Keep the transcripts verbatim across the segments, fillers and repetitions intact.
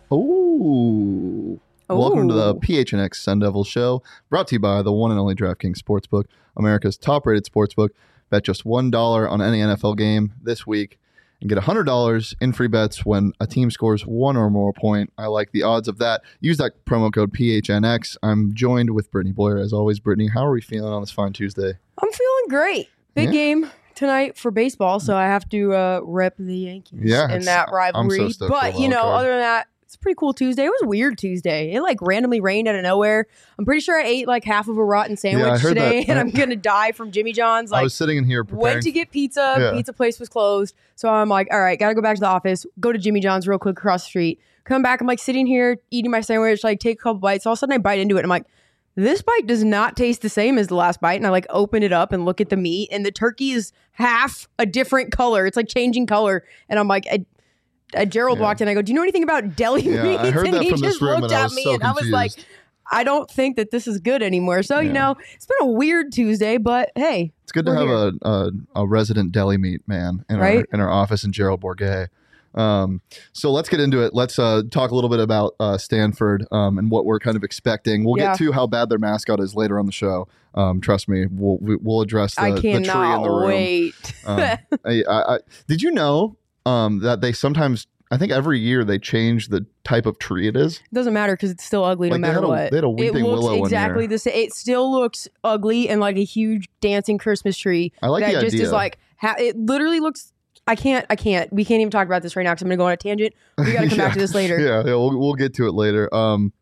Oh. Welcome to the P H N X Sun Devil Show, brought to you by the one and only DraftKings Sportsbook, America's top-rated sportsbook. Bet just one dollar on any N F L game this week and get one hundred dollars in free bets when a team scores one or more point. I like the odds of that. Use that promo code P H N X. I'm joined with Brittany Boyer, as always. Brittany, how are we feeling on this fine Tuesday? I'm feeling great. Big yeah. game tonight for baseball, so I have to uh, rep the Yankees yeah, in that rivalry. I'm so but, you know, card. other than that, it's a pretty cool Tuesday. It was a weird Tuesday. It like randomly rained out of nowhere. I'm pretty sure I ate like half of a rotten sandwich yeah, today, that. and I'm going to die from Jimmy John's. Like, I was sitting in here preparing. Went to get pizza. Yeah. Pizza place was closed. So I'm like, all right, got to go back to the office, go to Jimmy John's real quick across the street. Come back. I'm like sitting here eating my sandwich, like take a couple bites. All of a sudden I bite into it. And I'm like, this bite does not taste the same as the last bite. And I like open it up and look at the meat, and the turkey is half a different color. It's like changing color. And I'm like, I, Uh, Gerald yeah. walked in. I go, do you know anything about deli yeah, meats? I heard and that he from just this room looked and I at was me so and I was like, confused. I don't think that this is good anymore. So, yeah. you know, it's been a weird Tuesday, but hey. It's good to have a, a a resident deli meat man in right? our in our office in Gerald Bourget. Um, so let's get into it. Let's uh, talk a little bit about uh, Stanford um, and what we're kind of expecting. We'll yeah. get to how bad their mascot is later on the show. Um, trust me, we'll we'll address the, I the tree in the room. wait. um, I, I, I, did you know um, that they sometimes, I think every year they change the type of tree it is? It doesn't matter because it's still ugly like no matter a, what. They had a weeping it looks willow exactly the same. It still looks ugly and like a huge dancing Christmas tree. I like that the just idea. is like, ha- it literally looks. I can't. I can't. We can't even talk about this right now because I'm going to go on a tangent. We got to come yeah. back to this later. Yeah, yeah, we'll we'll get to it later. Um,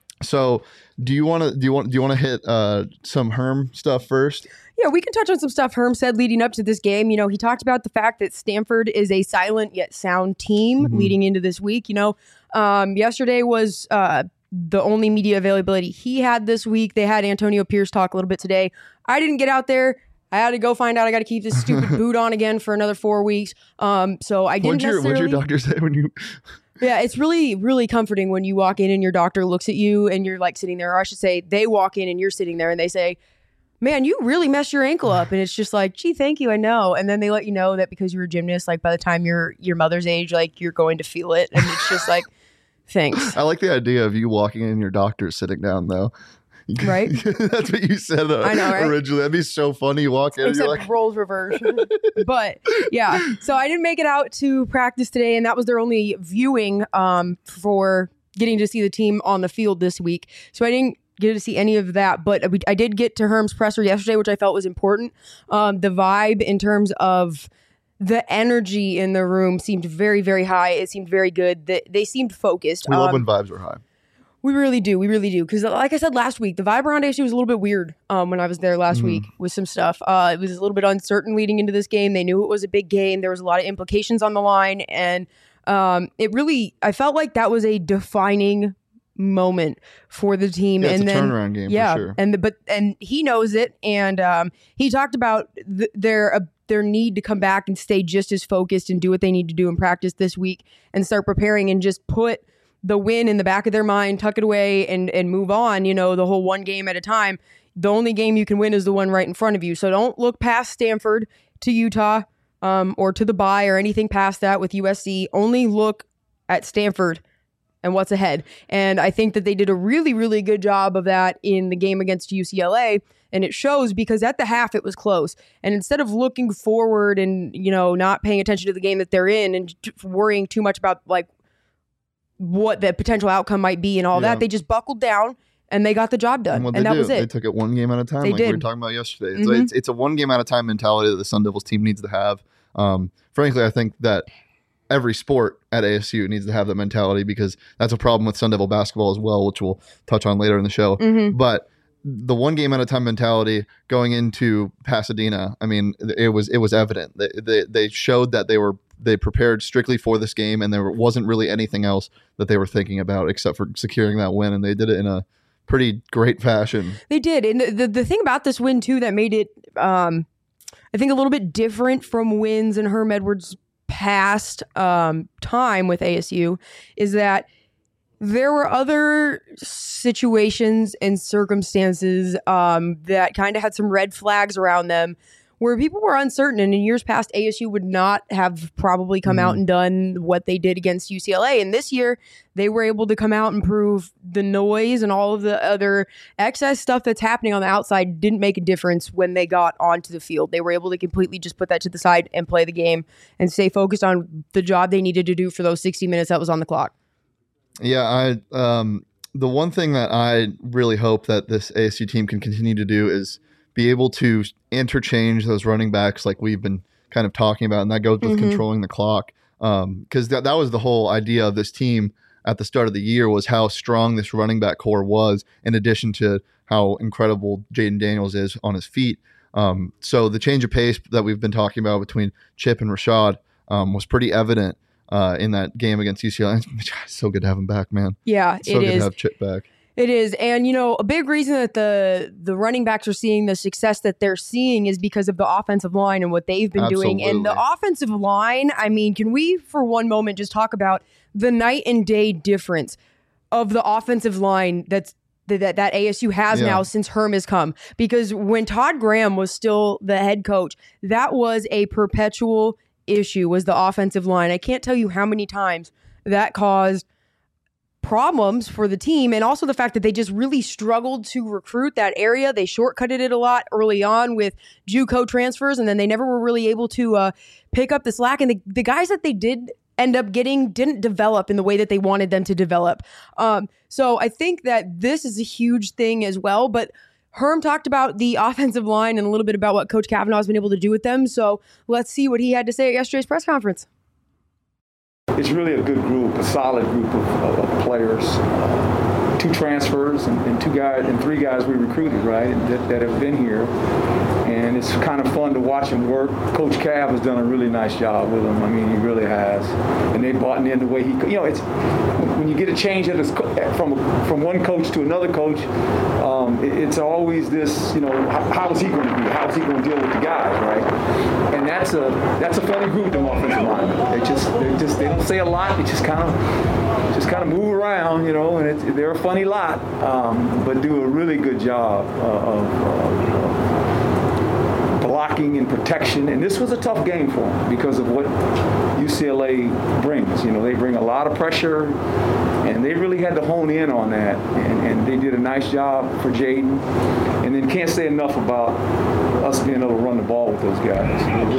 so do you want to do you want do you want to hit uh some Herm stuff first? Yeah, we can touch on some stuff Herm said leading up to this game. You know, he talked about the fact that Stanford is a silent yet sound team mm-hmm. leading into this week. You know, um, yesterday was uh, the only media availability he had this week. They had Antonio Pierce talk a little bit today. I didn't get out there. I had to go find out I got to keep this stupid boot on again for another four weeks. Um, so I didn't what'd your, necessarily... What'd your doctor say when you... Yeah, it's really, really comforting when you walk in and your doctor looks at you and you're like sitting there, or I should say they walk in and you're sitting there and they say, man, you really messed your ankle up. And it's just like, gee, thank you. I know. And then they let you know that because you're a gymnast, like by the time you're your mother's age, like you're going to feel it. And it's just like, thanks. I like the idea of you walking in and your doctor sitting down though. Right? That's what you said uh, I know, right? originally. That'd be so funny. You walk in Except and you're like... roles reverse. But yeah, so I didn't make it out to practice today, and that was their only viewing um, for getting to see the team on the field this week. So I didn't get to see any of that, but I did get to Herm's presser yesterday, which I felt was important. Um, the vibe in terms of the energy in the room seemed very, very high. It seemed very good. They, they seemed focused. We love um, when vibes are high. We really do. We really do. Because like I said last week, the vibe around A S U was a little bit weird um, when I was there last mm-hmm. week with some stuff. Uh, it was a little bit uncertain leading into this game. They knew it was a big game. There was a lot of implications on the line. And um, it really, I felt like that was a defining moment for the team. Yeah, it's and a then, turnaround game yeah, for sure. And the, but and he knows it. And um, he talked about th- their uh, their need to come back and stay just as focused and do what they need to do in practice this week and start preparing and just put the win in the back of their mind, tuck it away and and move on, you know, the whole one game at a time. The only game you can win is the one right in front of you. So don't look past Stanford to Utah um, or to the bye or anything past that with U S C. Only look at Stanford and what's ahead. And I think that they did a really, really good job of that in the game against U C L A. And it shows because at the half it was close. And instead of looking forward and, you know, not paying attention to the game that they're in and worrying too much about like what the potential outcome might be and all yeah. that, they just buckled down and they got the job done. And, and that do, was it. They took it one game at a time, they like did. we were talking about yesterday. Mm-hmm. So it's, it's a one game at a time mentality that the Sun Devils team needs to have. Um, frankly, I think that every sport at A S U needs to have that mentality because that's a problem with Sun Devil basketball as well, which we'll touch on later in the show. Mm-hmm. But the one game at a time mentality going into Pasadena, I mean, it was it was evident. They they, they showed that they were they prepared strictly for this game, and there wasn't really anything else that they were thinking about except for securing that win, and they did it in a pretty great fashion. They did, and the the, the thing about this win too that made it, um, I think, a little bit different from wins in Herm Edwards' past um, time with A S U is that there were other situations and circumstances um, that kind of had some red flags around them where people were uncertain. And in years past, A S U would not have probably come Mm-hmm. out and done what they did against U C L A. And this year, they were able to come out and prove the noise and all of the other excess stuff that's happening on the outside didn't make a difference when they got onto the field. They were able to completely just put that to the side and play the game and stay focused on the job they needed to do for those sixty minutes that was on the clock. Yeah, I um, the one thing that I really hope that this A S U team can continue to do is be able to interchange those running backs like we've been kind of talking about, and that goes with Mm-hmm. controlling the clock. Um, because that, that was the whole idea of this team at the start of the year, was how strong this running back core was, in addition to how incredible Jaden Daniels is on his feet. Um, so the change of pace that we've been talking about between Chip and Rashad um, was pretty evident uh, in that game against U C L A. It's so good to have him back, man. Yeah, So it good is. to have Chip back. It is. And, you know, a big reason that the the running backs are seeing the success that they're seeing is because of the offensive line and what they've been doing. And the Absolutely. offensive line, I mean, can we for one moment just talk about the night and day difference of the offensive line that's that, that A S U has Yeah. now since Herm has come? Because when Todd Graham was still the head coach, that was a perpetual issue, was the offensive line. I can't tell you how many times that caused problems for the team, and also the fact that they just really struggled to recruit that area. They shortcutted it a lot early on with JUCO transfers, and then they never were really able to uh, pick up the slack. And the, the guys that they did end up getting didn't develop in the way that they wanted them to develop. Um, so I think that this is a huge thing as well. But Herm talked about the offensive line and a little bit about what Coach Kavanaugh has been able to do with them. So let's see what he had to say at yesterday's press conference. It's really a good group, a solid group of, of, of players. Uh, two transfers and, and two guys and three guys we recruited, right, and that, that have been here. And it's kind of fun to watch them work. Coach Cav has done a really nice job with them. I mean, he really has. And they bought in the way he, you know, it's when you get a change at his, from from one coach to another coach, um, it, it's always this, you know, how, how is he going to be? How is he going to deal with the guys, right? And that's a that's a funny group, them offensive linemen. They just they just they don't say a lot. They just kind of just kind of move around, you know, and it's, they're a funny lot, um, but do a really good job uh, of. of, of blocking and protection, and this was a tough game for them because of what U C L A brings. You know, they bring a lot of pressure, and they really had to hone in on that, and, and they did a nice job for Jaden. And then can't say enough about us being able to run the ball with those guys. We,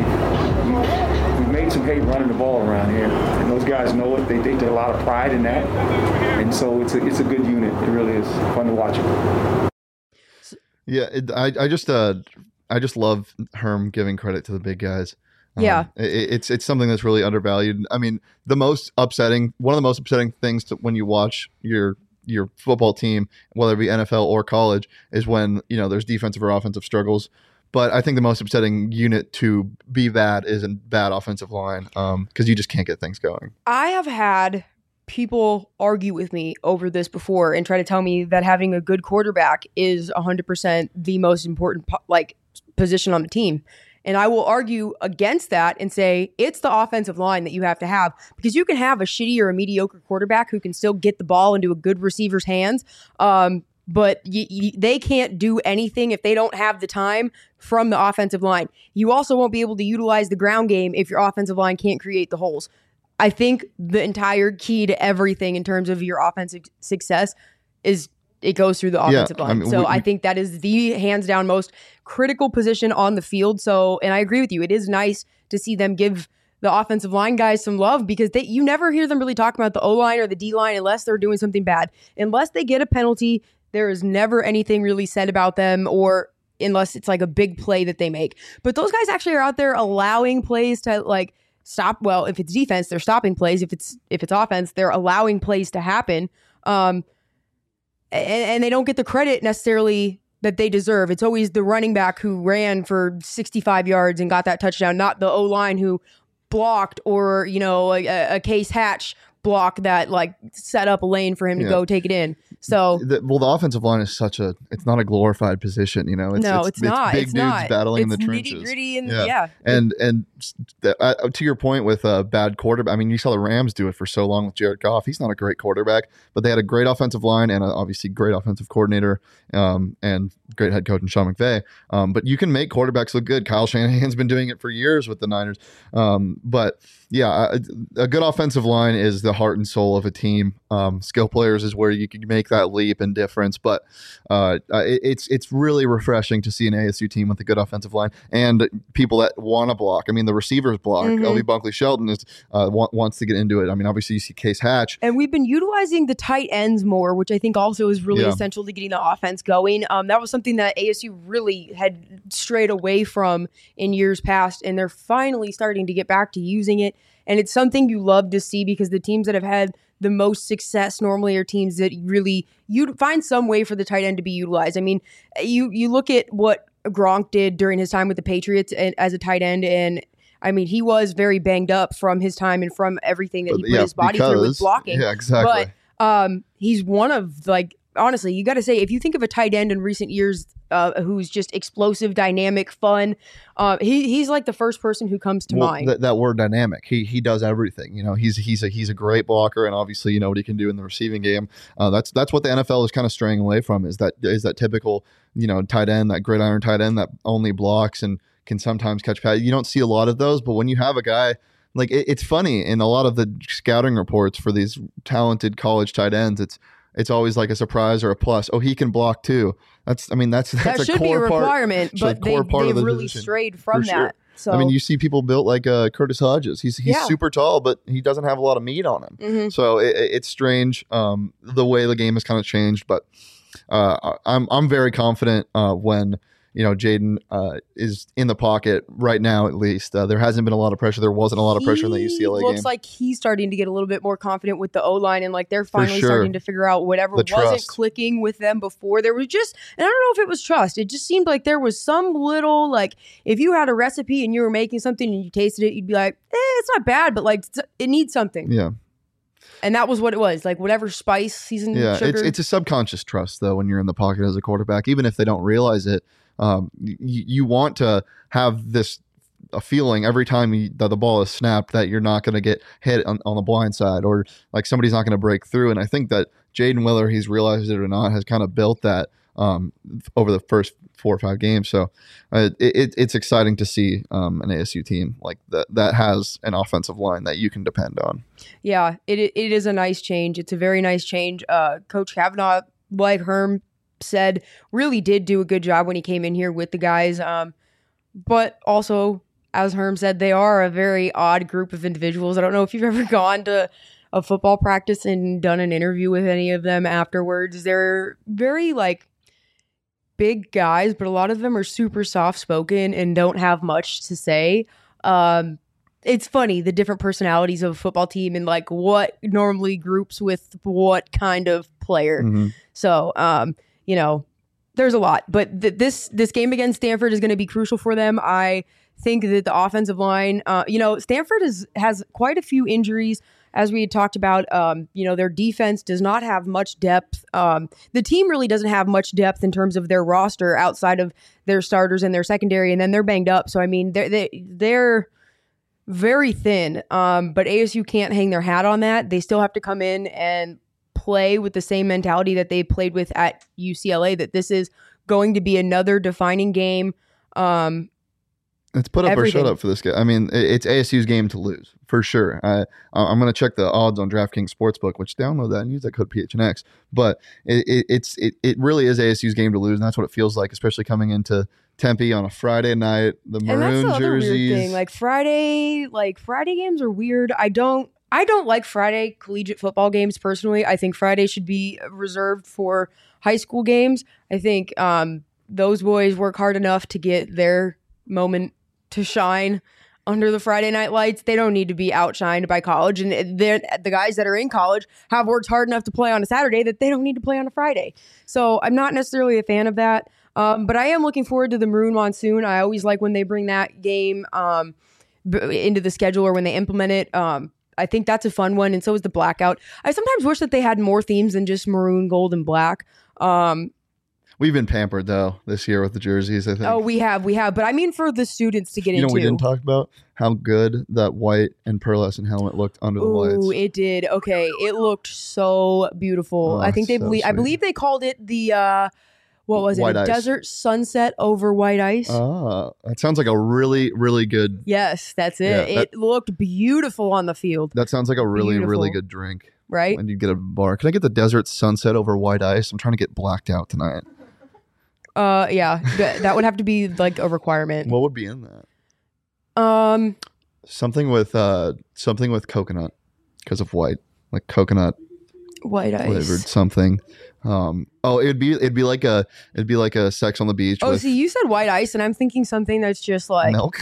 we, we made some hay running the ball around here, and those guys know it. They, they take a lot of pride in that, and so it's a, it's a good unit. It really is fun to watch it. Yeah, it, I I just uh I just love Herm giving credit to the big guys. Um, Yeah. it, it's it's something that's really undervalued. I mean, the most upsetting, one of the most upsetting things to, when you watch your your football team, whether it be N F L or college, is when you know there's defensive or offensive struggles. But I think the most upsetting unit to be that is a bad offensive line, because um, you just can't get things going. I have had people argue with me over this before and try to tell me that having a good quarterback is one hundred percent the most important po- like position on the team. And I will argue against that and say it's the offensive line that you have to have, because you can have a shitty or a mediocre quarterback who can still get the ball into a good receiver's hands. Um, but y- y- they can't do anything if they don't have the time from the offensive line. You also won't be able to utilize the ground game if your offensive line can't create the holes. I think the entire key to everything in terms of your offensive success is it goes through the offensive Yeah, line. I mean, so we- I we- think that is the hands down most critical position on the field. So, and I agree with you. It is nice to see them give the offensive line guys some love, because they, you never hear them really talk about the O-line or the D-line unless they're doing something bad. Unless they get a penalty, there is never anything really said about them, or unless it's like a big play that they make. But those guys actually are out there allowing plays to like stop. Well, if it's defense, they're stopping plays. If it's if it's offense, they're allowing plays to happen. Um, and, and they don't get the credit necessarily that they deserve. It's always the running back who ran for sixty-five yards and got that touchdown, not the O-line who blocked, or, you know, a, a Case Hatch block that like set up a lane for him to Yeah. go take it in. So, the, well, the offensive line is such a, it's not a glorified position, you know. It's, no, it's, it's, it's not. big it's dudes not. battling it's in the trenches. Nitty gritty and yeah. yeah. And, and the, uh, to your point with a bad quarterback, I mean, you saw the Rams do it for so long with Jared Goff. He's not a great quarterback, but they had a great offensive line and a, obviously great offensive coordinator um, and great head coach in Sean McVay. Um, but you can make quarterbacks look good. Kyle Shanahan's been doing it for years with the Niners. Um, but yeah, a, a good offensive line is the heart and soul of a team. Um, skill players is where you can make that leap and difference. But uh, it, it's it's really refreshing to see an A S U team with a good offensive line and people that want to block. I mean, the receivers block. Mm-hmm. L V Bunkley Shelton is uh, wa- wants to get into it. I mean, obviously you see Case Hatch. And we've been utilizing the tight ends more, which I think also is really Yeah. essential to getting the offense going. Um, that was something that A S U really had strayed away from in years past, and they're finally starting to get back to using it. And it's something you love to see because the teams that have had the most success normally are teams that really you find some way for the tight end to be utilized. I mean, you you look at what Gronk did during his time with the Patriots and, as a tight end, and I mean, he was very banged up from his time and from everything that he put Yeah, his body because- through with blocking. Yeah, exactly. But um, he's one of, like, honestly, you got to say, if you think of a tight end in recent years uh, who's just explosive, dynamic, fun, uh, he he's like the first person who comes to Well, mind. That, that word dynamic. He he does everything. You know, he's he's a he's a great blocker, and obviously you know what he can do in the receiving game. Uh, that's that's what the N F L is kind of straying away from. Is that is that typical you know tight end, that gridiron tight end that only blocks and can sometimes catch pass. You don't see a lot of those, but when you have a guy like it, it's funny in a lot of the scouting reports for these talented college tight ends, it's it's always like a surprise or a plus. Oh, he can block too. That's I mean that's that's that a should core be a part. requirement, it's a but they, core part of they've the really position, strayed from for sure. that. So I mean, you see people built like uh, Curtis Hodges. He's he's Yeah. super tall, but he doesn't have a lot of meat on him. Mhm. So it, it- it's strange um, the way the game has kind of changed. But uh, I'm I'm very confident uh, when you know Jaden uh, is in the pocket right now. At least uh, there hasn't been a lot of pressure. There wasn't a lot of pressure in the U C L A he looks game. like he's starting to get a little bit more confident with the O-line, and like they're finally sure. starting to figure out whatever The wasn't trust. clicking with them before. There was just, and I don't know if it was trust. It just seemed like there was some little, like, if you had a recipe and you were making something and you tasted it, you'd be like, eh, it's not bad, but like it needs something. yeah. And that was what it was, like whatever spice, seasoned Yeah, sugar. it's it's a subconscious trust though when you're in the pocket as a quarterback, even if they don't realize it. Um, y- you want to have this a feeling every time you, that the ball is snapped that you're not going to get hit on, on the blind side or like somebody's not going to break through. And I think that Jaden, whether he's realized it or not, has kind of built that um, over the first four or five games. So uh, it, it, it's exciting to see um, an A S U team like that that has an offensive line that you can depend on. Yeah, it it is a nice change. It's a very nice change. Uh, Coach Kavanaugh, like Herm said, really did do a good job when he came in here with the guys. Um, but also, as Herm said, they are a very odd group of individuals. I don't know if you've ever gone to a football practice and done an interview with any of them afterwards. They're very like big guys, but a lot of them are super soft spoken and don't have much to say. Um, it's funny, the different personalities of a football team and like what normally groups with what kind of player. Mhm. So, um, you know, there's a lot, but th- this this game against Stanford is going to be crucial for them. I think that the offensive line, uh, you know, Stanford is, has quite a few injuries, as we had talked about. Um, you know, their defense does not have much depth. Um, the team really doesn't have much depth in terms of their roster outside of their starters and their secondary, and then they're banged up. So, I mean, they're, they, they're very thin, um, but A S U can't hang their hat on that. They still have to come in and play with the same mentality that they played with at U C L A, that this is going to be another defining game. Um, It's put up Everything. or shut up for this guy. I mean, it- it's A S U's game to lose for sure. I, I'm going to check the odds on DraftKings Sportsbook, which download that and use that code P H N X. But it, it, it's it, it really is A S U's game to lose, and that's what it feels like, especially coming into Tempe on a Friday night. The and that's maroon the other jerseys. weird thing. Like Friday, like Friday games are weird. I don't, I don't like Friday collegiate football games personally. I think Friday should be reserved for high school games. I think um, those boys work hard enough to get their moment to shine under the Friday night lights. They don't need to be outshined by college. And they're, the guys that are in college have worked hard enough to play on a Saturday that they don't need to play on a Friday. So I'm not necessarily a fan of that. Um, but I am looking forward to the Maroon Monsoon. I always like when they bring that game um, b- into the schedule or when they implement it. Um, I think that's a fun one, and so is the blackout. I sometimes wish that they had more themes than just maroon, gold, and black. Um, We've been pampered though this year with the jerseys. I think. Oh, we have, we have. But I mean, for the students to get you know, into. we didn't talk about how good that white and pearlescent helmet looked under the lights. Ooh, it did. Okay, it looked so beautiful. Oh, I think they so believe. I sweet. believe they called it the. Uh, what was White it? A ice. Desert sunset over white ice. Ah, that sounds like a really, really good. Yes, that's it. Yeah, that- it looked beautiful on the field, That sounds like a really, really Beautiful. good drink. right? When you get a bar, can I get the desert sunset over white ice? I'm trying to get blacked out tonight. Uh, yeah, th- that would have to be like a requirement. What would be in that? Um, Something with uh, something with coconut because of white, like coconut white ice. flavored something. Um, oh, it'd be it'd be like a it'd be like a Sex on the Beach. Oh, with see, you said white ice, and I'm thinking something that's just like milk.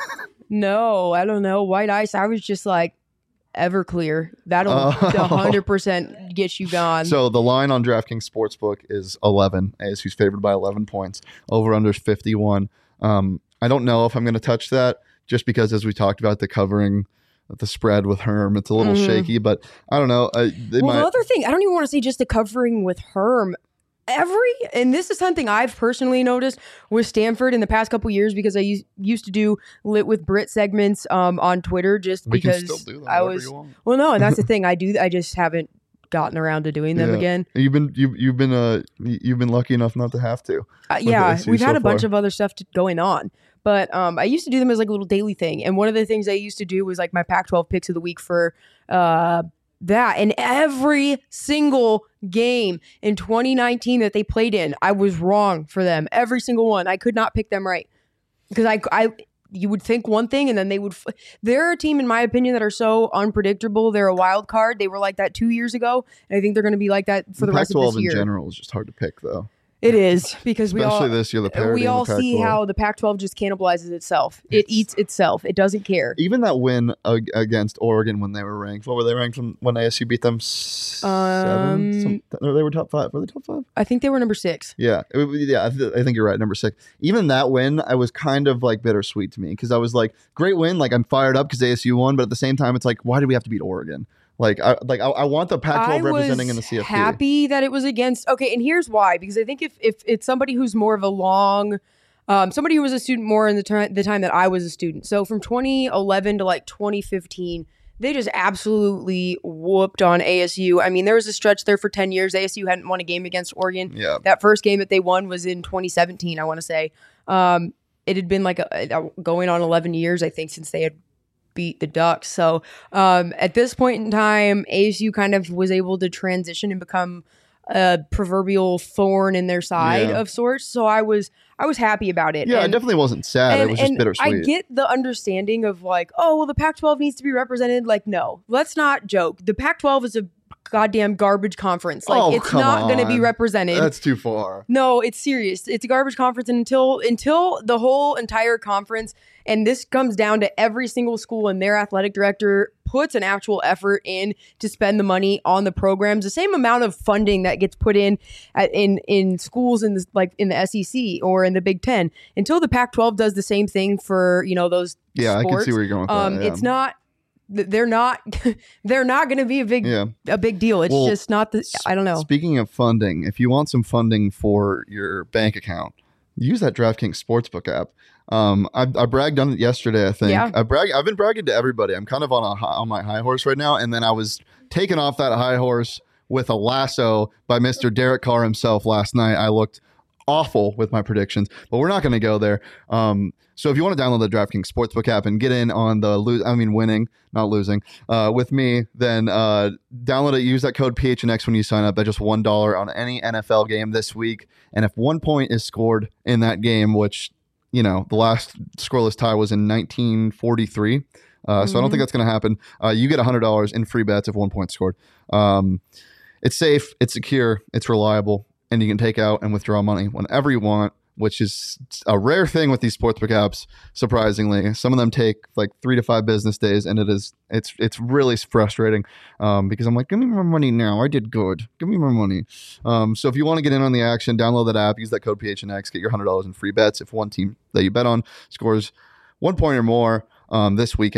no, I don't know, white ice. I was just like Everclear. That'll Oh. one hundred percent get you gone. So the line on DraftKings Sportsbook is eleven. A S U's favored by eleven points. Over under fifty-one. Um, I don't know if I'm going to touch that just because, as we talked about, the covering, the spread with Herm, it's a little Mhm. shaky. But I don't know. I, they well, might, the other thing, I don't even want to say just the covering with Herm. Every, and this is something I've personally noticed with Stanford in the past couple years because I used, used to do Lit with Brit segments um, on Twitter just we can because still do that. I whenever was, you want. well, no, and that's the thing. I do, I just haven't gotten around to doing them Yeah. again. You've been you you've been uh you've been lucky enough not to have to. Uh, with yeah, A S U we've had so a bunch far. of other stuff to, going on, but um, I used to do them as like a little daily thing. And one of the things I used to do was like my Pac twelve picks of the week for uh, that. And every single game in twenty nineteen that they played in, I was wrong for them. Every single one, I could not pick them right because I, I, you would think one thing and then they would. F- They're a team, in my opinion, that are so unpredictable. They're a wild card. They were like that two years ago, and I think they're going to be like that for the, rest of Pac twelve this year. in general is just hard to pick though. It is because we all Especially this year, the parity we in the all see Pac twelve. how the Pac twelve just cannibalizes itself. It It's- eats itself. It doesn't care. Even that win ag- against Oregon when they were ranked, what were they ranked from when A S U beat them? Seven. Um, Some, no, they were top five. Were they top five? I think they were number six. Yeah, it, would- yeah. I, th- I think you're right. Number six. Even that win, I was kind of like bittersweet to me because I was like, great win. Like I'm fired up because A S U won, but at the same time, it's like, why did we have to beat Oregon? Like, I like I, I want the Pac twelve I representing was in the C F P. happy that it was against. Okay, and here's why. Because I think if if it's somebody who's more of a long, um, somebody who was a student more in the time the time that I was a student. So from twenty eleven to like twenty fifteen. They just absolutely whooped on A S U. I mean, there was a stretch there for ten years. A S U hadn't won a game against Oregon. Yeah. That first game that they won was in twenty seventeen, I want to say. Um, it had been like a, a, going on eleven years, I think, since they had beat the Ducks. So um, at this point in time, A S U kind of was able to transition and become a proverbial thorn in their side Yeah. of sorts. So I was I was happy about it. Yeah, And- it definitely wasn't sad. and, it was just and bittersweet. I get the understanding of like, oh, well, the Pac twelve needs to be represented. Like, no, let's not joke. The Pac twelve is a goddamn garbage conference. Like, Oh, it's come not going to be on. represented. That's too far. No, it's serious. It's a garbage conference, and until until the whole entire conference, and this comes down to every single school and their athletic director puts an actual effort in to spend the money on the programs, the same amount of funding that gets put in at, in in schools in the, like in the S E C or in the Big Ten. Until the Pac twelve does the same thing for you know those Yeah, I sports, can see where you're going with um, that. Yeah. it's not. They're not. They're not going to be a big Yeah. a big deal. It's Well, just not the. I don't know. Speaking of funding, if you want some funding for your bank account, use that DraftKings Sportsbook app. Um, I, I bragged on it yesterday. I think Yeah. I brag. I've been bragging to everybody. I'm kind of on a hi- on my high horse right now, and then I was taken off that high horse with a lasso by Mister Derek Carr himself last night. I looked awful with my predictions, but we're not going to go there. Um, so if you want to download the DraftKings Sportsbook app and get in on the lose, I mean winning, not losing, uh, with me, then uh, download it. Use that code P H N X when you sign up. That's just one dollar on any N F L game this week. And if one point is scored in that game, which you know the last scoreless tie was in nineteen forty-three. Uh, so I don't think that's going to happen. Uh, you get one hundred dollars in free bets if one point scored. Um, it's safe, it's secure, it's reliable, and you can take out and withdraw money whenever you want, which is a rare thing with these sportsbook apps. Surprisingly, some of them take like three to five business days, and it is it's it's really frustrating um, because I'm like, give me more money now. I did good. Give me more money. Um, so if you want to get in on the action, download that app, use that code P H N X, get your one hundred dollars in free bets if one team that you bet on scores one point or more um, this weekend.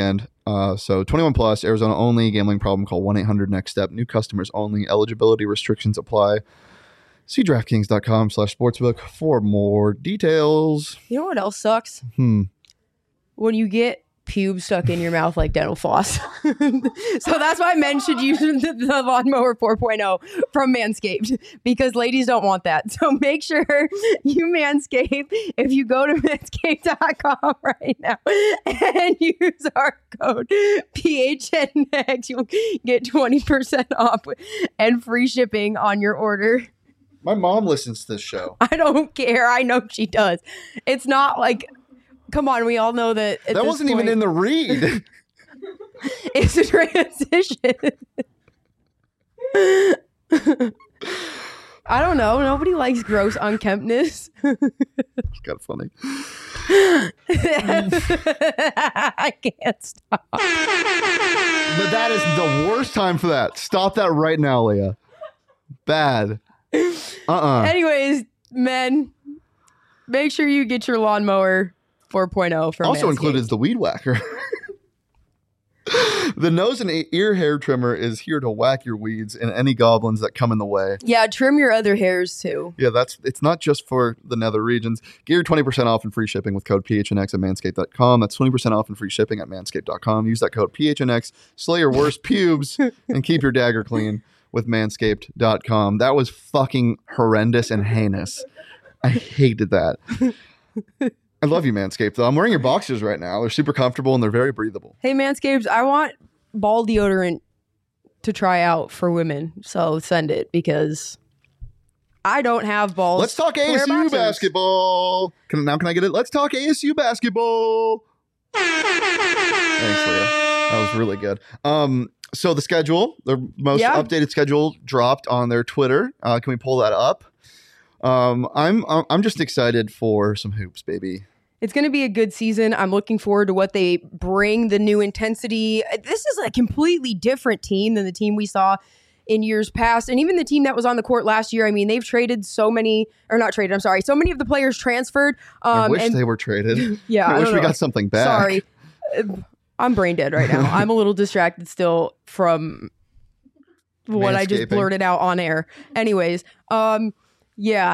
Uh, so twenty-one plus, Arizona only, gambling problem, call one eight hundred next step. New customers only, eligibility restrictions apply. See DraftKings.com slash sportsbook for more details. You know what else sucks? Hmm. When you get pubes stuck in your mouth like dental floss. So that's why men should use the, the Lawnmower four point oh from Manscaped, because ladies don't want that. So make sure you Manscaped if you go to manscaped dot com right now and use our code P H N X. You'll get twenty percent off and free shipping on your order. My mom listens to this show. I don't care. I know she does. It's not like... Come on, we all know that. At that this wasn't point, even in the read. It's a transition. I don't know. Nobody likes gross unkemptness. It's kind of funny. I can't stop. But that is the worst time for that. Stop that right now, Leah. Bad. Uh-uh. Anyways, men, make sure you get your Lawnmower four point oh from Also Manscaped. included is the Weed Whacker. The nose and ear hair trimmer is here to whack your weeds and any goblins that come in the way. Yeah, trim your other hairs too. Yeah, that's it's not just for the nether regions. Get your twenty percent off and free shipping with code P H N X at manscaped dot com. That's twenty percent off and free shipping at manscaped dot com. Use that code P H N X, slay your worst pubes, and keep your dagger clean with manscaped dot com. That was fucking horrendous and heinous. I hated that. I love you, Manscaped, though. I'm wearing your boxers right now. They're super comfortable and they're very breathable. Hey, Manscaped, I want ball deodorant to try out for women. So send it, because I don't have balls. Let's talk to wear A S U boxers. basketball. Can, now can I get it? Let's talk A S U basketball. Thanks, Leah. That was really good. Um, so the schedule, the most Yeah. updated schedule dropped on their Twitter. Uh, can we pull that up? Um, I'm I'm just excited for some hoops, baby. It's going to be a good season. I'm looking forward to what they bring, the new intensity. This is a completely different team than the team we saw in years past. And even the team that was on the court last year, I mean, they've traded so many, or not traded, I'm sorry. So many of the players transferred. Um, I wish and, they were traded. Yeah, I, I wish don't we know. got something back. Sorry. I'm brain dead right now. I'm a little distracted still from what I just Manscaping. blurted out on air. Anyways, um, yeah.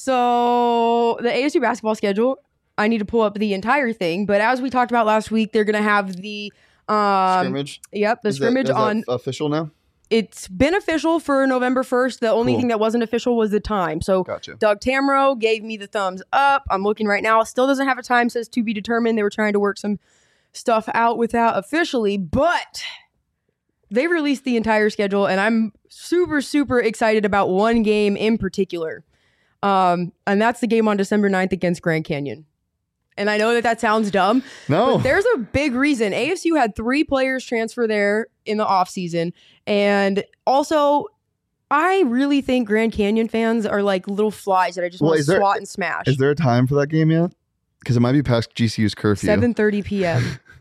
So the A S U basketball schedule, I need to pull up the entire thing. But as we talked about last week, they're going to have the um, Scrimmage. Yep, the Is that- scrimmage is that on. official now. It's been official for November first. The only Cool. thing that wasn't official was the time. So Gotcha. Doug Tamro gave me the thumbs up. I'm looking right now. Still doesn't have a time. Says to be determined. They were trying to work some stuff out without officially, but they released the entire schedule, and I'm super, super excited about one game in particular. Um, and that's the game on December ninth against Grand Canyon. And I know that that sounds dumb, No. but there's a big reason. A S U had three players transfer there in the offseason. And also, I really think Grand Canyon fans are like little flies that I just Well, want to is there- swat and smash. Is there a time for that game yet? Because it might be past G C U's curfew. seven thirty p.m.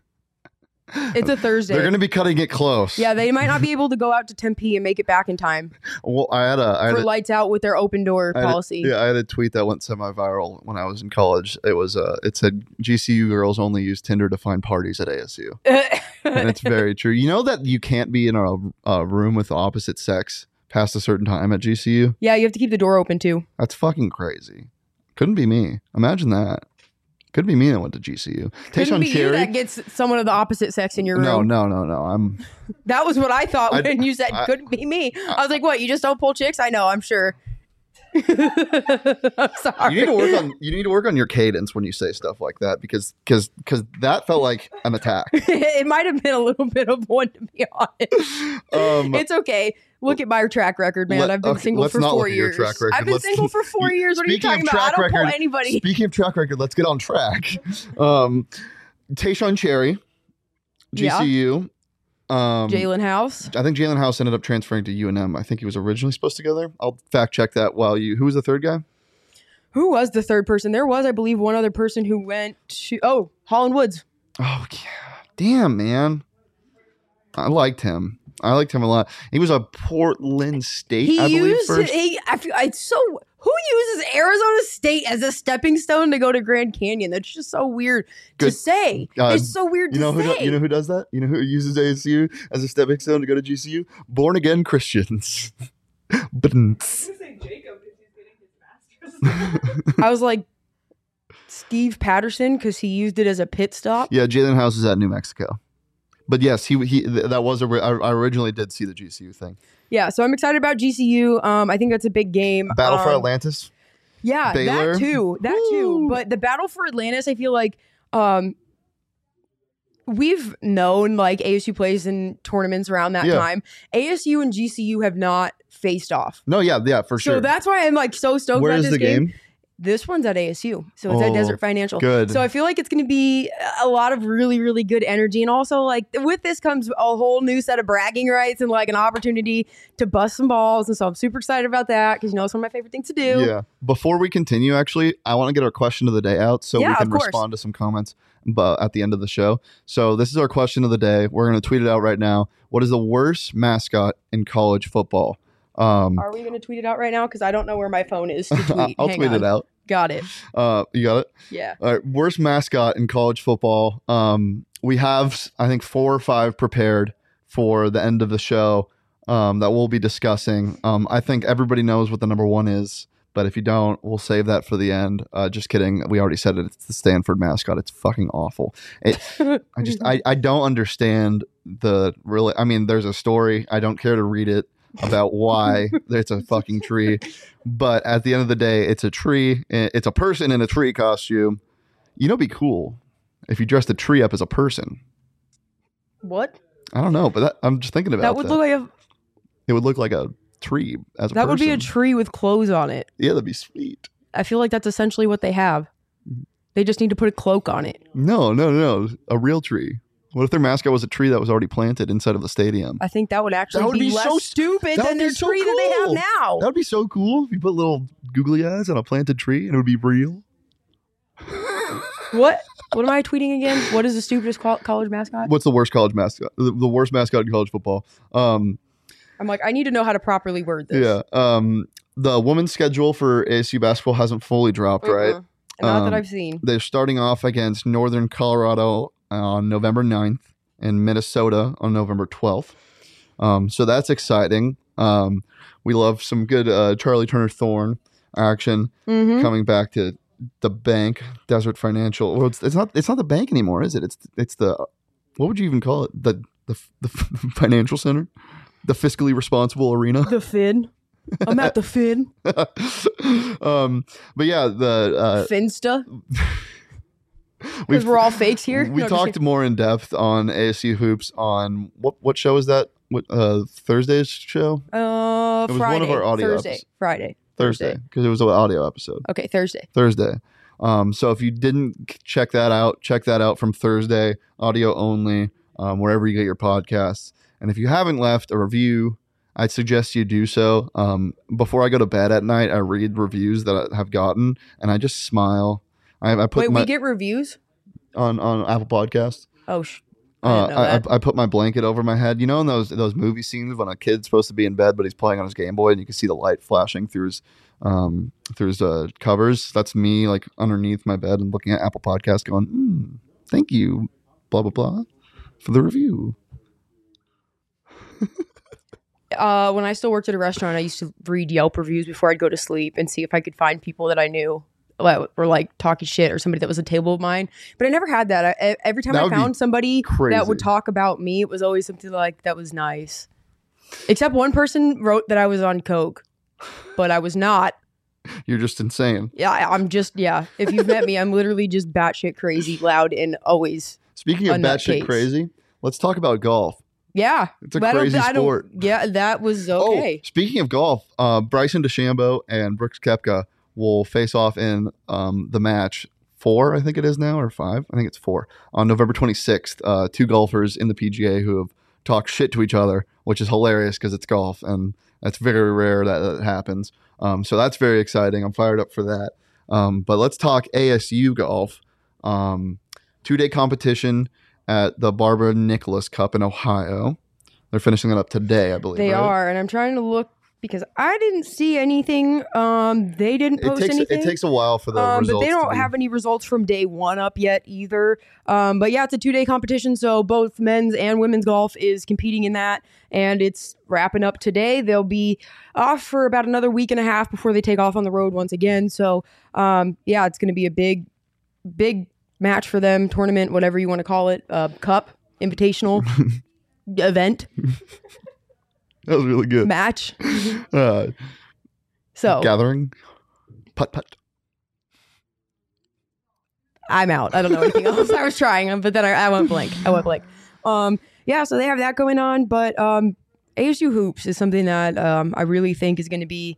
It's a Thursday. They're going to be cutting it close. Yeah, they might not be able to go out to Tempe and make it back in time Well, I had a I had for a, lights out with their open door I had a- policy. yeah, I had a tweet that went semi-viral when I was in college. It was uh, it said G C U girls only use Tinder to find parties at A S U, and it's very true. You know that you can't be in a, a room with the opposite sex past a certain time at G C U. Yeah, you have to keep the door open too. That's fucking crazy. Couldn't be me. Imagine that. Could be me that went to G C U. Couldn't Tayshaun be you Cherry. that gets someone of the opposite sex in your room. No, no, no, no. I'm. That was what I thought I- when you said I- couldn't be me. I was like, what? You just don't pull chicks? I know, I'm sure. I'm sorry. You need to work on. You need to work on your cadence when you say stuff like that because because because that felt like an attack. It might have been a little bit of one, to be honest. Um, It's okay. Look at my track record, man. Let- I've been okay, single let's for not four look at your years. track record. I've been Let's- single for four you- years. What are you speaking talking of about? I track don't pull record- anybody. Speaking of track record, let's get on track. Um, Tayshaun Cherry, G C U. Um, Jalen House. I think Jalen House ended up transferring to U N M. I think he was originally supposed to go there. I'll fact check that while you. Who was the third guy? Who was the third person? There was, I believe, one other person who went to. Oh, Holland Woods. Oh yeah, damn man. I liked him. I liked him a lot. He was a Portland State, He I believe, used first. he. I feel it's so. Who uses Arizona State as a stepping stone to go to Grand Canyon? That's just so weird to Good. say. Uh, it's so weird You know to who? say. Do, you know who does that? You know who uses A S U as a stepping stone to go to G C U? Born again Christians. But I was like Steve Patterson because he used it as a pit stop. yeah, Jalen House is at New Mexico. But yes, he he th- that was a. I, I originally did see the G C U thing. Yeah, so I'm excited about G C U. Um, I think that's a big game. Battle for Um, Atlantis. Yeah, Baylor. that too. That too. Woo. But the battle for Atlantis, I feel like um, we've known like A S U plays in tournaments around that Yeah. time. A S U and G C U have not faced off. No, yeah, yeah, for So sure. that's why I'm like so stoked Where about is this the game? This one's at A S U. So it's at Oh, Desert Financial. good. So I feel like it's going to be a lot of really, really good energy. And also, like, with this comes a whole new set of bragging rights and, like, an opportunity to bust some balls. And so I'm super excited about that because, you know, it's one of my favorite things to do. Yeah. Before we continue, actually, I want to get our question of the day out so Yeah, we can of course. respond to some comments but at the end of the show. So this is our question of the day. We're going to tweet it out right now. What is the worst mascot in college football? Um, Are we going to tweet it out right now? Because I don't know where my phone is to tweet. I'll Hang tweet on. it out. Got it. Uh, you got it? Yeah. All right. Worst mascot in college football. Um, we have, I think, four or five prepared for the end of the show um, that we'll be discussing. Um, I think everybody knows what the number one is, but if you don't, we'll save that for the end. Uh, just kidding. We already said it. It's the Stanford mascot. It's fucking awful. It, I just, I, I don't understand the really, I mean, there's a story. I don't care to read it about why it's a fucking tree. But at the end of the day, it's a tree. It's a person in a tree costume. You know, it'd be cool if you dressed the tree up as a person. What? I don't know, but that, I'm just thinking about That would look like a it would look like a tree as a that person. would be a tree with clothes on it. Yeah, that'd be sweet. I feel like that's essentially what they have. They just need to put a cloak on it. No, no, no, a real tree. What if their mascot was a tree that was already planted inside of the stadium? I think that would actually That would be, be less so- stupid that than would their be so tree that they have cool. now. That would be so cool if you put little googly eyes on a planted tree and it would be real. What? What am I tweeting again? What is the stupidest col- college mascot? What's the worst college mascot? The, the worst mascot in college football. Um, I'm like, I need to know how to properly word this. yeah. Um, the women's schedule for A S U basketball hasn't fully dropped, right? Mm-mm. Not Um, that I've seen. They're starting off against Northern Colorado on November ninth and Minnesota on November twelfth. Um, so that's exciting. Um, we love some good uh, Charlie Turner Thorne action Mm-hmm. coming back to the bank, Desert Financial. Well, it's, it's not it's not the bank anymore, is it? It's it's the what would you even call it? The the, the financial center, the fiscally responsible arena. The Fin. I'm at the Fin. um, but yeah, the uh, Finsta. we've Because we're all fakes here. we No, just talked kidding. more in depth on A S U hoops on what what show is that? What uh, Thursday's show? Uh, It was one Friday. of our audio Thursday. episodes. Friday. Thursday, because it was an audio episode. Okay, Thursday. Thursday. Um, so if you didn't check that out, check that out from Thursday, audio only, um, wherever you get your podcasts. And if you haven't left a review, I'd suggest you do so. Um, before I go to bed at night, I read reviews that I have gotten, and I just smile. I, I put Wait, my we get reviews? on on Apple Podcasts. Oh, sh- I Uh, didn't know I, that. I, I put my blanket over my head. You know, in those those movie scenes when a kid's supposed to be in bed, but he's playing on his Game Boy, and you can see the light flashing through his um, through his uh, covers. That's me, like underneath my bed and looking at Apple Podcasts, going, mm, "Thank you, blah blah blah, for the review." uh, when I still worked at a restaurant, I used to read Yelp reviews before I'd go to sleep and see if I could find people that I knew that were like talking shit or somebody that was a table of mine. But I never had that. I, e- every time That I would be found somebody that would crazy. talk about me, it was always something like that was nice. Except one person wrote that I was on coke, but I was not. You're just insane. Yeah, I- I'm just yeah. If you've met me, I'm literally just batshit crazy, loud, and always Speaking of A batshit nutcase. crazy, let's talk about golf. yeah. It's a But I don't- crazy I don't- sport. Yeah, that was okay. Oh, speaking of golf, uh, Bryson DeChambeau and Brooks Koepka will face off in um, the match four, I think it is now, or five. I think it's four on November twenty-sixth. Uh, two golfers in the P G A who have talked shit to each other, which is hilarious because it's golf and that's very rare that that happens. Um, so that's very exciting. I'm fired up for that. Um, but let's talk A S U golf. Um, two day competition at the Barbara Nicholas Cup in Ohio. They're finishing it up today, I believe. They right? are, and I'm trying to look because I didn't see anything. Um, they didn't post it takes, anything. It takes a while for the um, results. But they to don't be- have any results from day one up yet either. Um, but yeah, it's a two-day competition, so both men's and women's golf is competing in that, and it's wrapping up today. They'll be off for about another week and a half before they take off on the road once again. So um, yeah, it's going to be a big, big match for them, tournament, whatever you want to call it, uh, cup, invitational, event, That was really good. match. Uh, So gathering, putt putt. I'm out. I don't know anything else. I was trying, but then I, I went blank. I went blank. Um, yeah, so they have that going on, but um, A S U hoops is something that um, I really think is going to be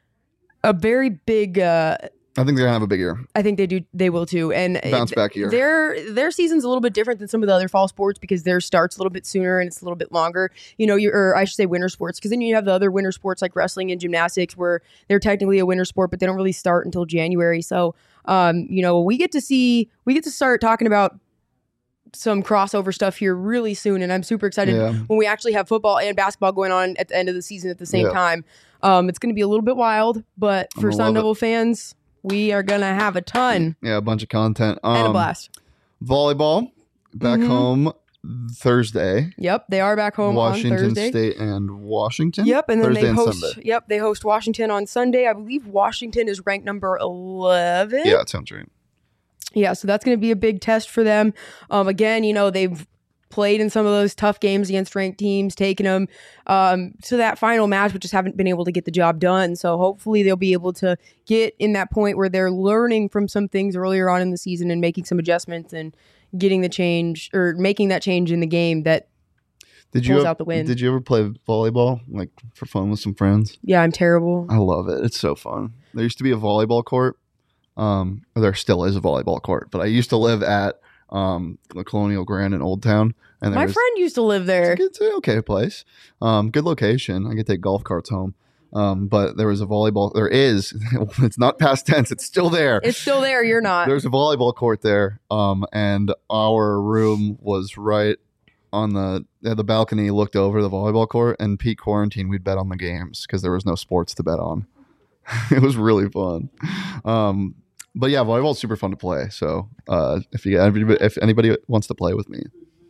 a very big. Uh, I think they're gonna have a big year. I think they do. They will too, and Bounce it- back year. Their their season's a little bit different than some of the other fall sports because theirs starts a little bit sooner and it's a little bit longer. You know, you or I should say winter sports, because then you have the other winter sports like wrestling and gymnastics where they're technically a winter sport, but they don't really start until January. So, um, you know, we get to see we get to start talking about some crossover stuff here really soon, and I'm super excited Yeah. when we actually have football and basketball going on at the end of the season at the same Yeah. time. Um, it's going to be a little bit wild, but I'm for gonna Sun love it. Devil fans, we are going to have a ton Yeah, a bunch of content. Um, and a blast. Volleyball back Mhm. home Thursday. Yep, they are back home Washington on Thursday. State and Washington. Yep, and then Thursday they and host. Sunday. Yep, they host Washington on Sunday. I believe Washington is ranked number eleven. Yeah, it sounds right. Yeah, so that's going to be a big test for them. Um, again, you know, they've played in some of those tough games against ranked teams, taking them um, to that final match, but just haven't been able to get the job done. So hopefully they'll be able to get in that point where they're learning from some things earlier on in the season and making some adjustments and getting the change or making that change in the game that, Did you Pulls ev- out the win. Did you ever play volleyball like for fun with some friends? yeah, I'm terrible. I love it. It's so fun. There used to be a volleyball court. Um, or there still is a volleyball court, but I used to live at um the Colonial Grand in Old Town, and there My was, friend used to live there. It's, a good, it's an okay place. Um, good location. I could take golf carts home. Um, but there was a volleyball. There is. It's not past tense. It's still there. It's still there. You're not. There's a volleyball court there. Um, and our room was right on the yeah, the balcony. Looked over the volleyball court. And peak quarantine, we'd bet on the games because there was no sports to bet on. It was really fun. Um, but yeah, volleyball's super fun to play. So uh, if you if anybody wants to play with me,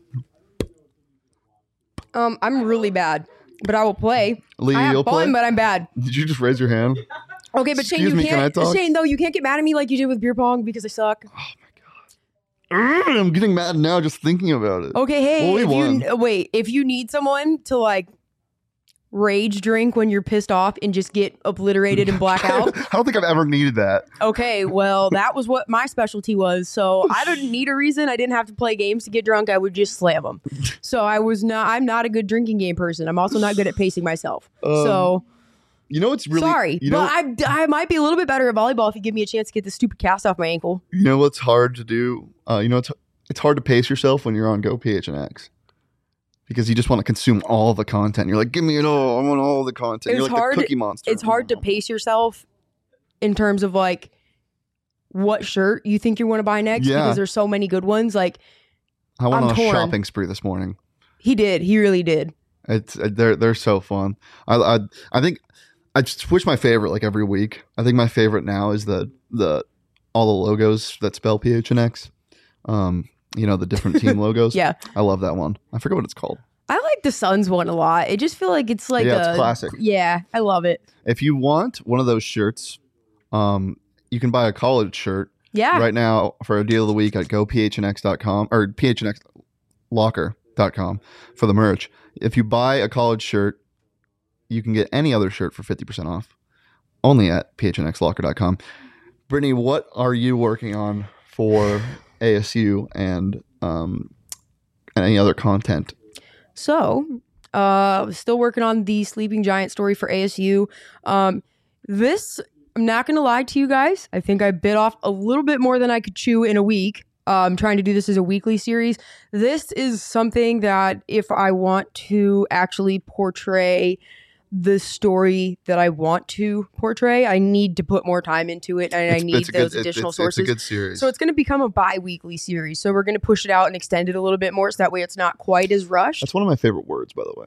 Um, I'm really bad, but I will play. Lee, I have you'll fun, play. but I'm bad. Did you just raise your hand? Okay, but Shane, Excuse you me, can I can't. talk? Shane, though, you can't get mad at me like you did with beer pong because I suck. Urgh, I'm getting mad now just thinking about it. Okay, hey, Well, we if won. you wait, if you need someone to like rage drink when you're pissed off and just get obliterated and black out, I don't think I've ever needed that. okay, well, that was what my specialty was. So I didn't need a reason. I didn't have to play games to get drunk. I would just slam them. So I was not. I'm not a good drinking game person. I'm also not good at pacing myself. Um, so. You know what's really Sorry, you know, but I, I might be a little bit better at volleyball if you give me a chance to get this stupid cast off my ankle. you know what's hard to do? Uh, you know it's it's hard to pace yourself when you're on Go P H N X. Because you just want to consume all the content. You're like, give me it all. I want all the content. It's You're like hard- the Cookie Monster. It's hard to pace yourself in terms of like what shirt you think you want to buy next Yeah. because there's so many good ones. Like I went I'm on a torn. shopping spree this morning. he did, he really did. It's uh, they're they're so fun. I I I think I switch my favorite like every week. I think my favorite now is the the all the logos that spell P H N X. Um, you know, the different team logos. Yeah, I love that one. I forget what it's called. I like the Suns one a lot. I just feel like it's like Yeah, a it's classic. Yeah, I love it. If you want one of those shirts, um, you can buy a college shirt Yeah, right now for a deal of the week at go p h n x dot com or p h n x locker dot com for the merch. If you buy a college shirt, you can get any other shirt for fifty percent off only at p h n x locker dot com. Brittany, what are you working on for A S U and um, any other content? So, uh, still working on the Sleeping Giant story for A S U. Um, this, I'm not going to lie to you guys. I think I bit off a little bit more than I could chew in a week. I'm trying to do this as a weekly series. This is something that if I want to actually portray the story that I want to portray, I need to put more time into it, and It's- I need it's a those good- it's- additional it's, sources. It's a good series. So it's going to become a bi-weekly series. So we're going to push it out and extend it a little bit more so that way it's not quite as rushed. That's one of my favorite words, by the way.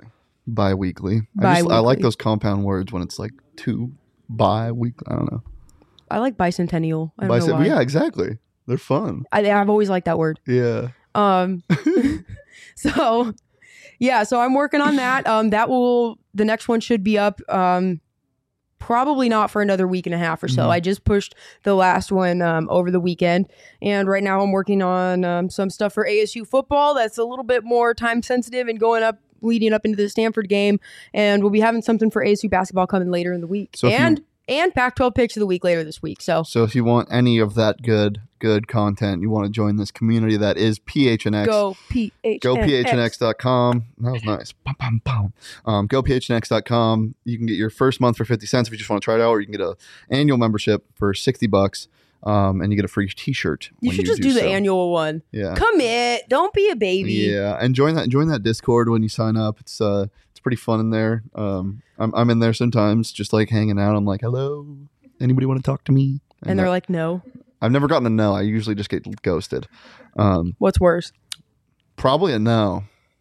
Bi-weekly. I, just, I like Bi-weekly. those compound words when it's like two bi-weekly. I don't know. I like bicentennial. I don't Bicep- know why. Yeah, exactly. They're fun. I, I've always liked that word. Yeah. Um, so yeah, so I'm working on that. Um, that will, the next one should be up, um, probably not for another week and a half or so. Mhm. I just pushed the last one, um, over the weekend. And right now I'm working on, um, some stuff for A S U football. That's a little bit more time sensitive and going up, leading up into the Stanford game. And we'll be having something for A S U basketball coming later in the week. So if you- and, and Pac twelve picks of the week later this week. So So if you want any of that good, good content, you want to join this community that is P H N X. go P H N X. Go P H N X dot com. That was nice. Pum, pum, pum. Um, go P H N X dot com. You can get your first month for fifty cents if you just want to try it out, or you can get an annual membership for sixty bucks, um, and you get a free t-shirt. You when should just do, the so. annual one. Yeah. Commit. Don't be a baby. Yeah, and join that join that Discord when you sign up. It's uh it's pretty fun in there. Um, I'm I'm in there sometimes, just like hanging out. I'm like, hello, anybody want to talk to me? And they're that- like, no. I've never gotten a no. I usually just get ghosted. Um, What's worse? probably a no.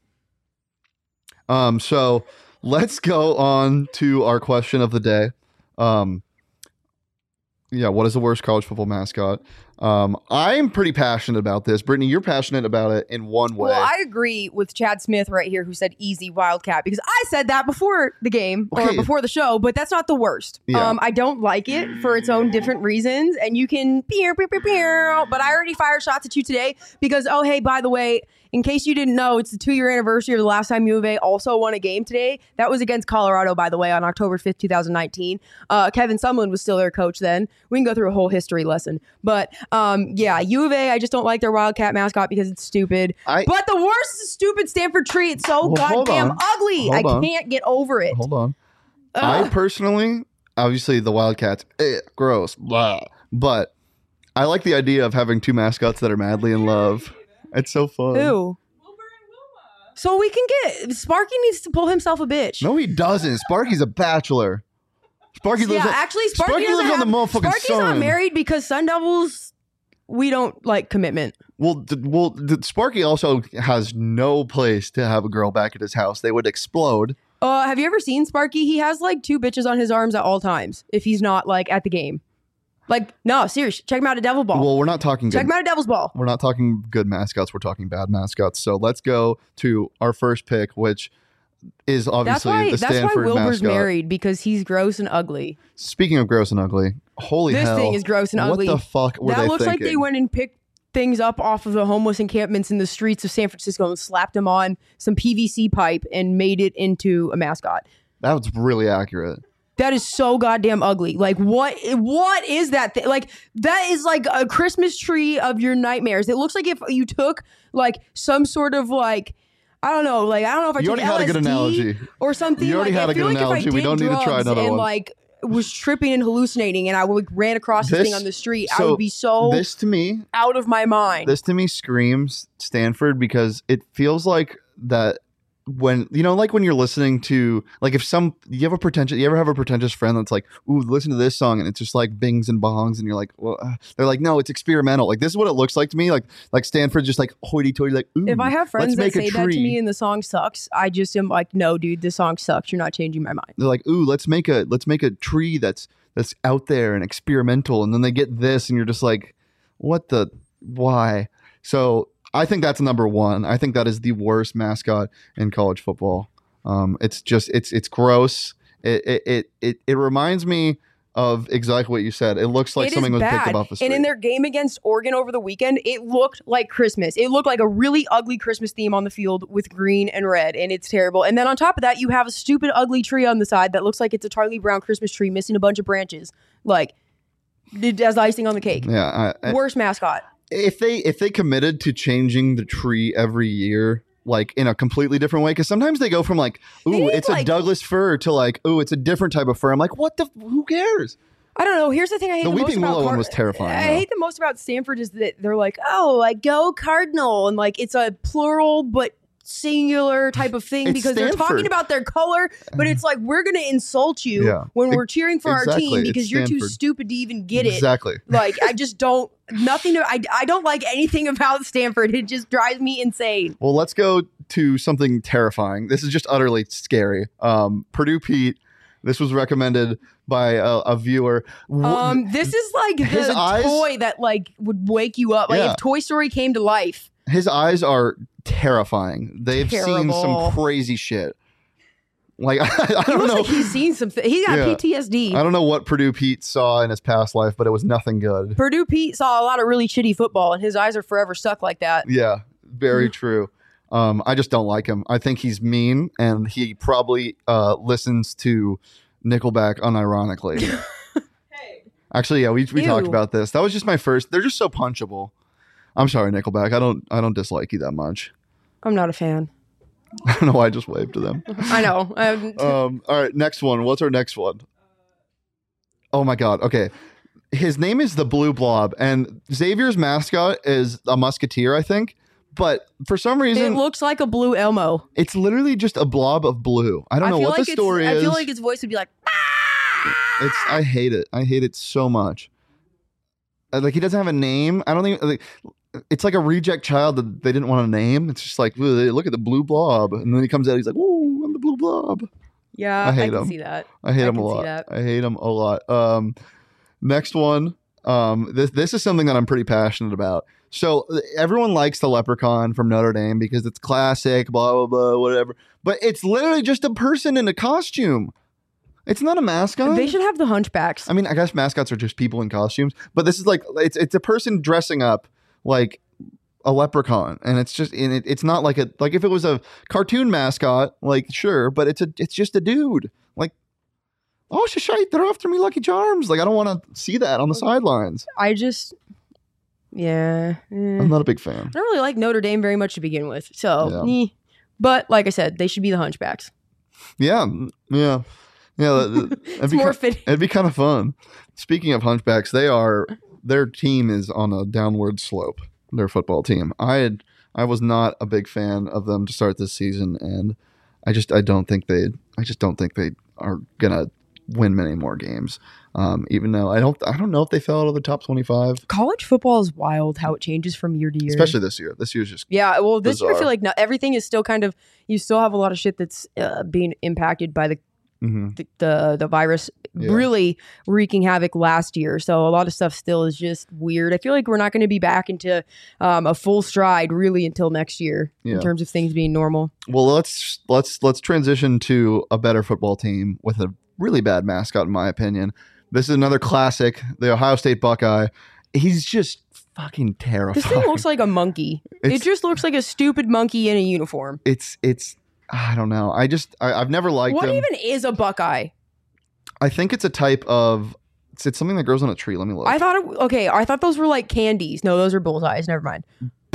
Um, so let's go on to our question of the day. Um, yeah, what is the worst college football mascot? Um, I'm pretty passionate about this. Brittany, you're passionate about it in one way. Well, I agree with Chad Smith right here, who said easy Wildcat, because I said that before the game or Okay. before the show, but that's not the worst. Yeah. Um, I don't like it for its own different reasons, and you can pew, pew, pew, pew, but I already fired shots at you today because, oh, hey, by the way, in case you didn't know, it's the two-year anniversary of the last time U of A also won a game today. That was against Colorado, by the way, on October fifth, twenty nineteen. Uh, Kevin Sumlin was still their coach then. We can go through a whole history lesson. But um, yeah, U of A, I just don't like their Wildcat mascot because it's stupid. I- but the worst is the stupid Stanford tree. It's so Well, hold goddamn on. ugly. Hold I on. can't get over it. Hold on. I Ugh. personally, obviously, the Wildcats, eh, gross, blah. But I like the idea of having two mascots that are madly in love. It's so fun. Who? So we can get Sparky needs to pull himself a bitch. No, he doesn't. Sparky's a bachelor. Sparky lives. yeah, on, actually, Sparky, Sparky doesn't lives on the have- motherfucking Sparky's sun. not married because Sun Devils, we don't like commitment. Well, d- well, d- Sparky also has no place to have a girl back at his house. They would explode. Uh, have you ever seen Sparky? He has like two bitches on his arms at all times if he's not like at the game. Like, no, seriously, check him out at Devil Ball. Well, we're not talking check good. him out at Devil's Ball. We're not talking good mascots. We're talking bad mascots. So let's go to our first pick, which is That's obviously why. the That's why Stanford Wilbur's mascot. married because he's gross and ugly. Speaking of gross and ugly, holy This hell! thing is gross and ugly. What the fuck were that they looks thinking? like they went and picked things up off of the homeless encampments in the streets of San Francisco and slapped them on some P V C pipe and made it into a mascot. That was really accurate. That is so goddamn ugly. Like, what? What is that thing? Like, that is like a Christmas tree of your nightmares. It looks like if you took like some sort of like, I don't know, like I don't know if I You took already had a good L S D analogy. or something. You already like, had I a feel good like if I analogy. We did don't need to try drugs another and one. like was tripping and hallucinating, and I would ran across this, This- thing on the street, I so would be so This to me, out of my mind. this to me screams Stanford because it feels like that when you know, like when you're listening to like if some you have a pretentious, you ever have a pretentious friend that's like, ooh, listen to this song, and it's just like bings and bongs, and you're like, well, uh, they're like, no, it's experimental. Like this is what it looks like to me. Like like Stanford's just like hoity-toity, like, ooh, If I have friends let's that make a say that to tree. me and the song sucks, I just am like, no, dude, the song sucks. You're not changing my mind. They're like, ooh, let's make a let's make a tree that's that's out there and experimental, and then they get this, and you're just like, what the why? So I think that's number one. I think that is the worst mascot in college football. Um, it's just it's it's gross. It it it it, it reminds me of exactly what you said. It looks like It is something was picked bad. up off the street. And in their game against Oregon over the weekend, it looked like Christmas. It looked like a really ugly Christmas theme on the field with green and red, and it's terrible. And then on top of that, you have a stupid, ugly tree on the side that looks like it's a Charlie Brown Christmas tree missing a bunch of branches, like as icing on the cake. yeah, I, I, Worst mascot. if they if they committed to changing the tree every year, like in a completely different way, because sometimes they go from like, ooh, need, it's a like- Douglas fir to like, ooh, it's a different type of fir. I'm like, what the? Who cares? I don't know. Here's the thing I hate The the, most Weeping about Willow one Car- was terrifying, I though. hate the most about Stanford is that they're like, oh, like go Cardinal, and like it's a plural but singular type of thing It's because they're Stanford. talking about their color, but it's like we're gonna insult you Yeah. when Ex- we're cheering for our exactly. team It's because you're too Stanford. stupid to even get it. Exactly. Like I just don't nothing. To, I I don't like anything about Stanford. It just drives me insane. Well, let's go to something terrifying. This is just utterly scary. Um, Purdue Pete. This was recommended by a, a viewer. Um, this is like His the eyes- toy that like would wake you up. Like Yeah. if Toy Story came to life. His eyes are terrifying. They've seen Terrible. some crazy shit. Like, I, I He don't looks know. like he's seen something. He got Yeah. P T S D. I don't know what Purdue Pete saw in his past life, but it was nothing good. Purdue Pete saw a lot of really shitty football, and his eyes are forever stuck like that. Yeah, very Mhm. true. Um, I just don't like him. I think he's mean, and he probably uh, listens to Nickelback unironically. Actually, yeah, we we Ew. talked about this. That was just my first. They're just so punchable. I'm sorry, Nickelback. I don't I don't dislike you that much. I'm not a fan. I don't know why I just waved to them. I know. Um, Um, all right, next one. What's our next one? Oh my God. Okay. His name is the Blue Blob, and Xavier's mascot is a musketeer, I think. But for some it reason, looks like a blue Elmo. it's literally just a blob of blue. I don't know feel what like the it's- story I is. feel like its voice would be like, It's I hate it. I hate it so much. Uh, Like he doesn't have a name. I don't think like, it's like a reject child that they didn't want to name. It's just like, "Ugh, look at the blue blob, and then he comes out. He's like, "Ooh, I'm the blue blob." yeah, I hate can him. see that. I hate I him a can see lot. that. I hate him a lot. Um, next one. Um, this this is something that I'm pretty passionate about. So uh, everyone likes the leprechaun from Notre Dame because it's classic, blah blah blah, whatever. But it's literally just a person in a costume. It's not a mascot. They should have the hunchbacks. I mean, I guess mascots are just people in costumes, but this is like it's it's a person dressing up like a leprechaun, and it's just and it, it's not like a like if it was a cartoon mascot, like sure, but it's a it's just a dude. Like, oh shite, they're after me, Lucky Charms. Like I don't want to see that on the sidelines. I just, yeah. eh. I'm not a big fan. I don't really like Notre Dame very much to begin with. So, Yeah. eh. But like I said, they should be the hunchbacks. Yeah, yeah, yeah. that- that- it'd It's be more ki- fitting. It'd be kind of fun. Speaking of hunchbacks, they are their team is on a downward slope. Their football team. I had I was not a big fan of them to start this season, and I just I don't think they I just don't think they are gonna win many more games. Um, even though I don't I don't know if they fell out of the top twenty-five, College football is wild how it changes from year to year. especially this year. This year's just Yeah, well, this year I bizarre. feel like not, everything is still kind of, you still have a lot of shit that's uh, being impacted by the mhm. the the, the virus Yeah. really wreaking havoc last year. So a lot of stuff still is just weird. I feel like we're not going to be back into um, a full stride really until next year Yeah. in terms of things being normal. Well, let's let's let's transition to a better football team with a really bad mascot, in my opinion. This is another classic, the Ohio State Buckeye. He's just fucking terrifying. This thing looks like a monkey. it It's- just looks like a stupid monkey in a uniform. it's it's I don't know. I just I, I've never liked What him. even is a Buckeye? I think it's a type of it's, it's something that grows on a tree. Let me look. I thought it, okay, I thought those were like candies. No, those are bullseyes. Never mind.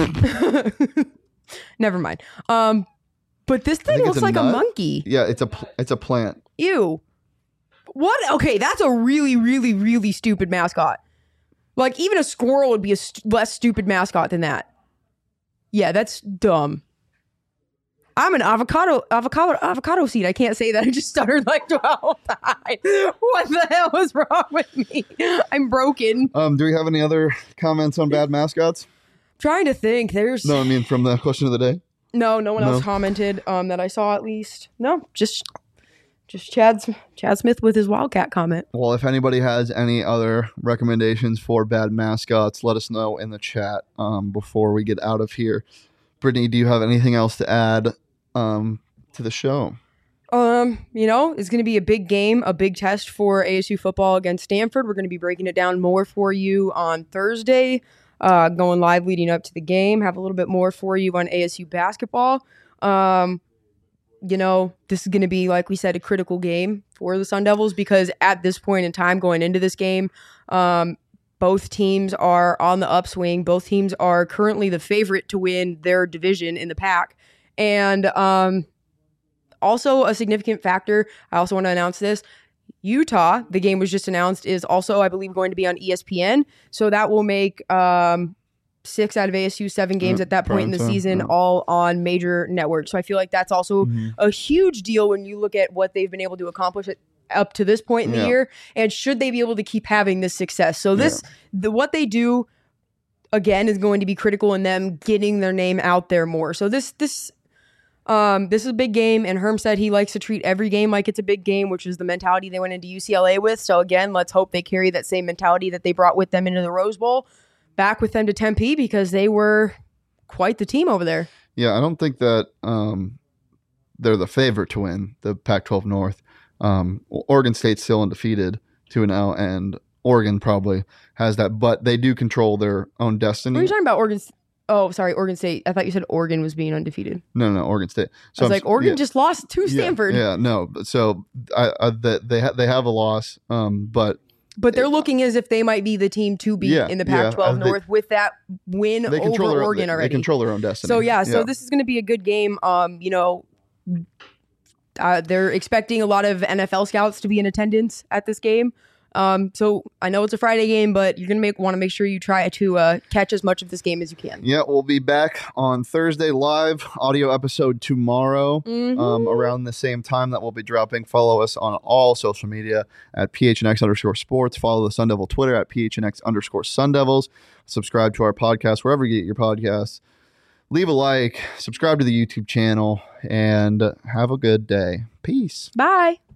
Never mind. Um, but this thing think it's looks a like a nut. monkey. yeah, it's a pl- it's a plant. Ew. What? Okay, that's a really, really, really stupid mascot. Like even a squirrel would be a st- less stupid mascot than that. Yeah, that's dumb. I'm an avocado, avocado, avocado seed. I can't say that. I just stuttered like twelve times. What the hell is wrong with me? I'm broken. Um, do we have any other comments on bad mascots? Trying to think. There's No, I mean from the question of the day. no, no one else No. commented um, that I saw at least. No, just just Chad Chad Smith with his Wildcat comment. Well, if anybody has any other recommendations for bad mascots, let us know in the chat um, before we get out of here. Brittany, do you have anything else to add um, to the show? Um, you know, it's going to be a big game, a big test for A S U football against Stanford. We're going to be breaking it down more for you on Thursday, uh, going live leading up to the game. Have a little bit more for you on A S U basketball. Um, you know, this is going to be, like we said, a critical game for the Sun Devils because at this point in time going into this game, um, both teams are on the upswing. Both teams are currently the favorite to win their division in the pack. And um, also a significant factor, I also want to announce this, Utah, the game was just announced, is also, I believe, going to be on E S P N. So that will make um, six out of A S U seven games Yeah, at that point in the prime time, season yeah. all on major networks. So I feel like that's also a huge deal when you look at what they've been able to accomplish at, up to this point in Yeah. the year, and should they be able to keep having this success. So this, the what they do, again, is going to be critical in them getting their name out there more. So this, this, Um, this is a big game, and Herm said he likes to treat every game like it's a big game, which is the mentality they went into U C L A with. So again, let's hope they carry that same mentality that they brought with them into the Rose Bowl back with them to Tempe, because they were quite the team over there. Yeah, I don't think that um, they're the favorite to win the Pac twelve North. Um, Oregon State's still undefeated two and oh, and Oregon probably has that, but they do control their own destiny. What are you talking about, Oregon? Oh, sorry, Oregon State. I thought you said Oregon was being undefeated. No, no, Oregon State. So I was I'm, like, Oregon yeah, just lost to Stanford. Yeah, yeah no. So I, I, the, they ha- they have a loss, um, but but they're looking as if they might be the team to beat yeah, in the Pac twelve yeah, North they, with that win over their, Oregon they, already. They control their own destiny. So yeah, so yeah. this is going to be a good game. Um, you know, uh, they're expecting a lot of N F L scouts to be in attendance at this game. Um, so I know it's a Friday game, but you're gonna make want to make sure you try to uh, catch as much of this game as you can. Yeah, we'll be back on Thursday live audio episode tomorrow, mm-hmm. um, around the same time that we'll be dropping. Follow us on all social media at P H N X underscore sports. Follow the Sun Devil Twitter at P H N X underscore Sun Devils. Subscribe to our podcast wherever you get your podcasts. Leave a like, subscribe to the YouTube channel, and have a good day. Peace. Bye.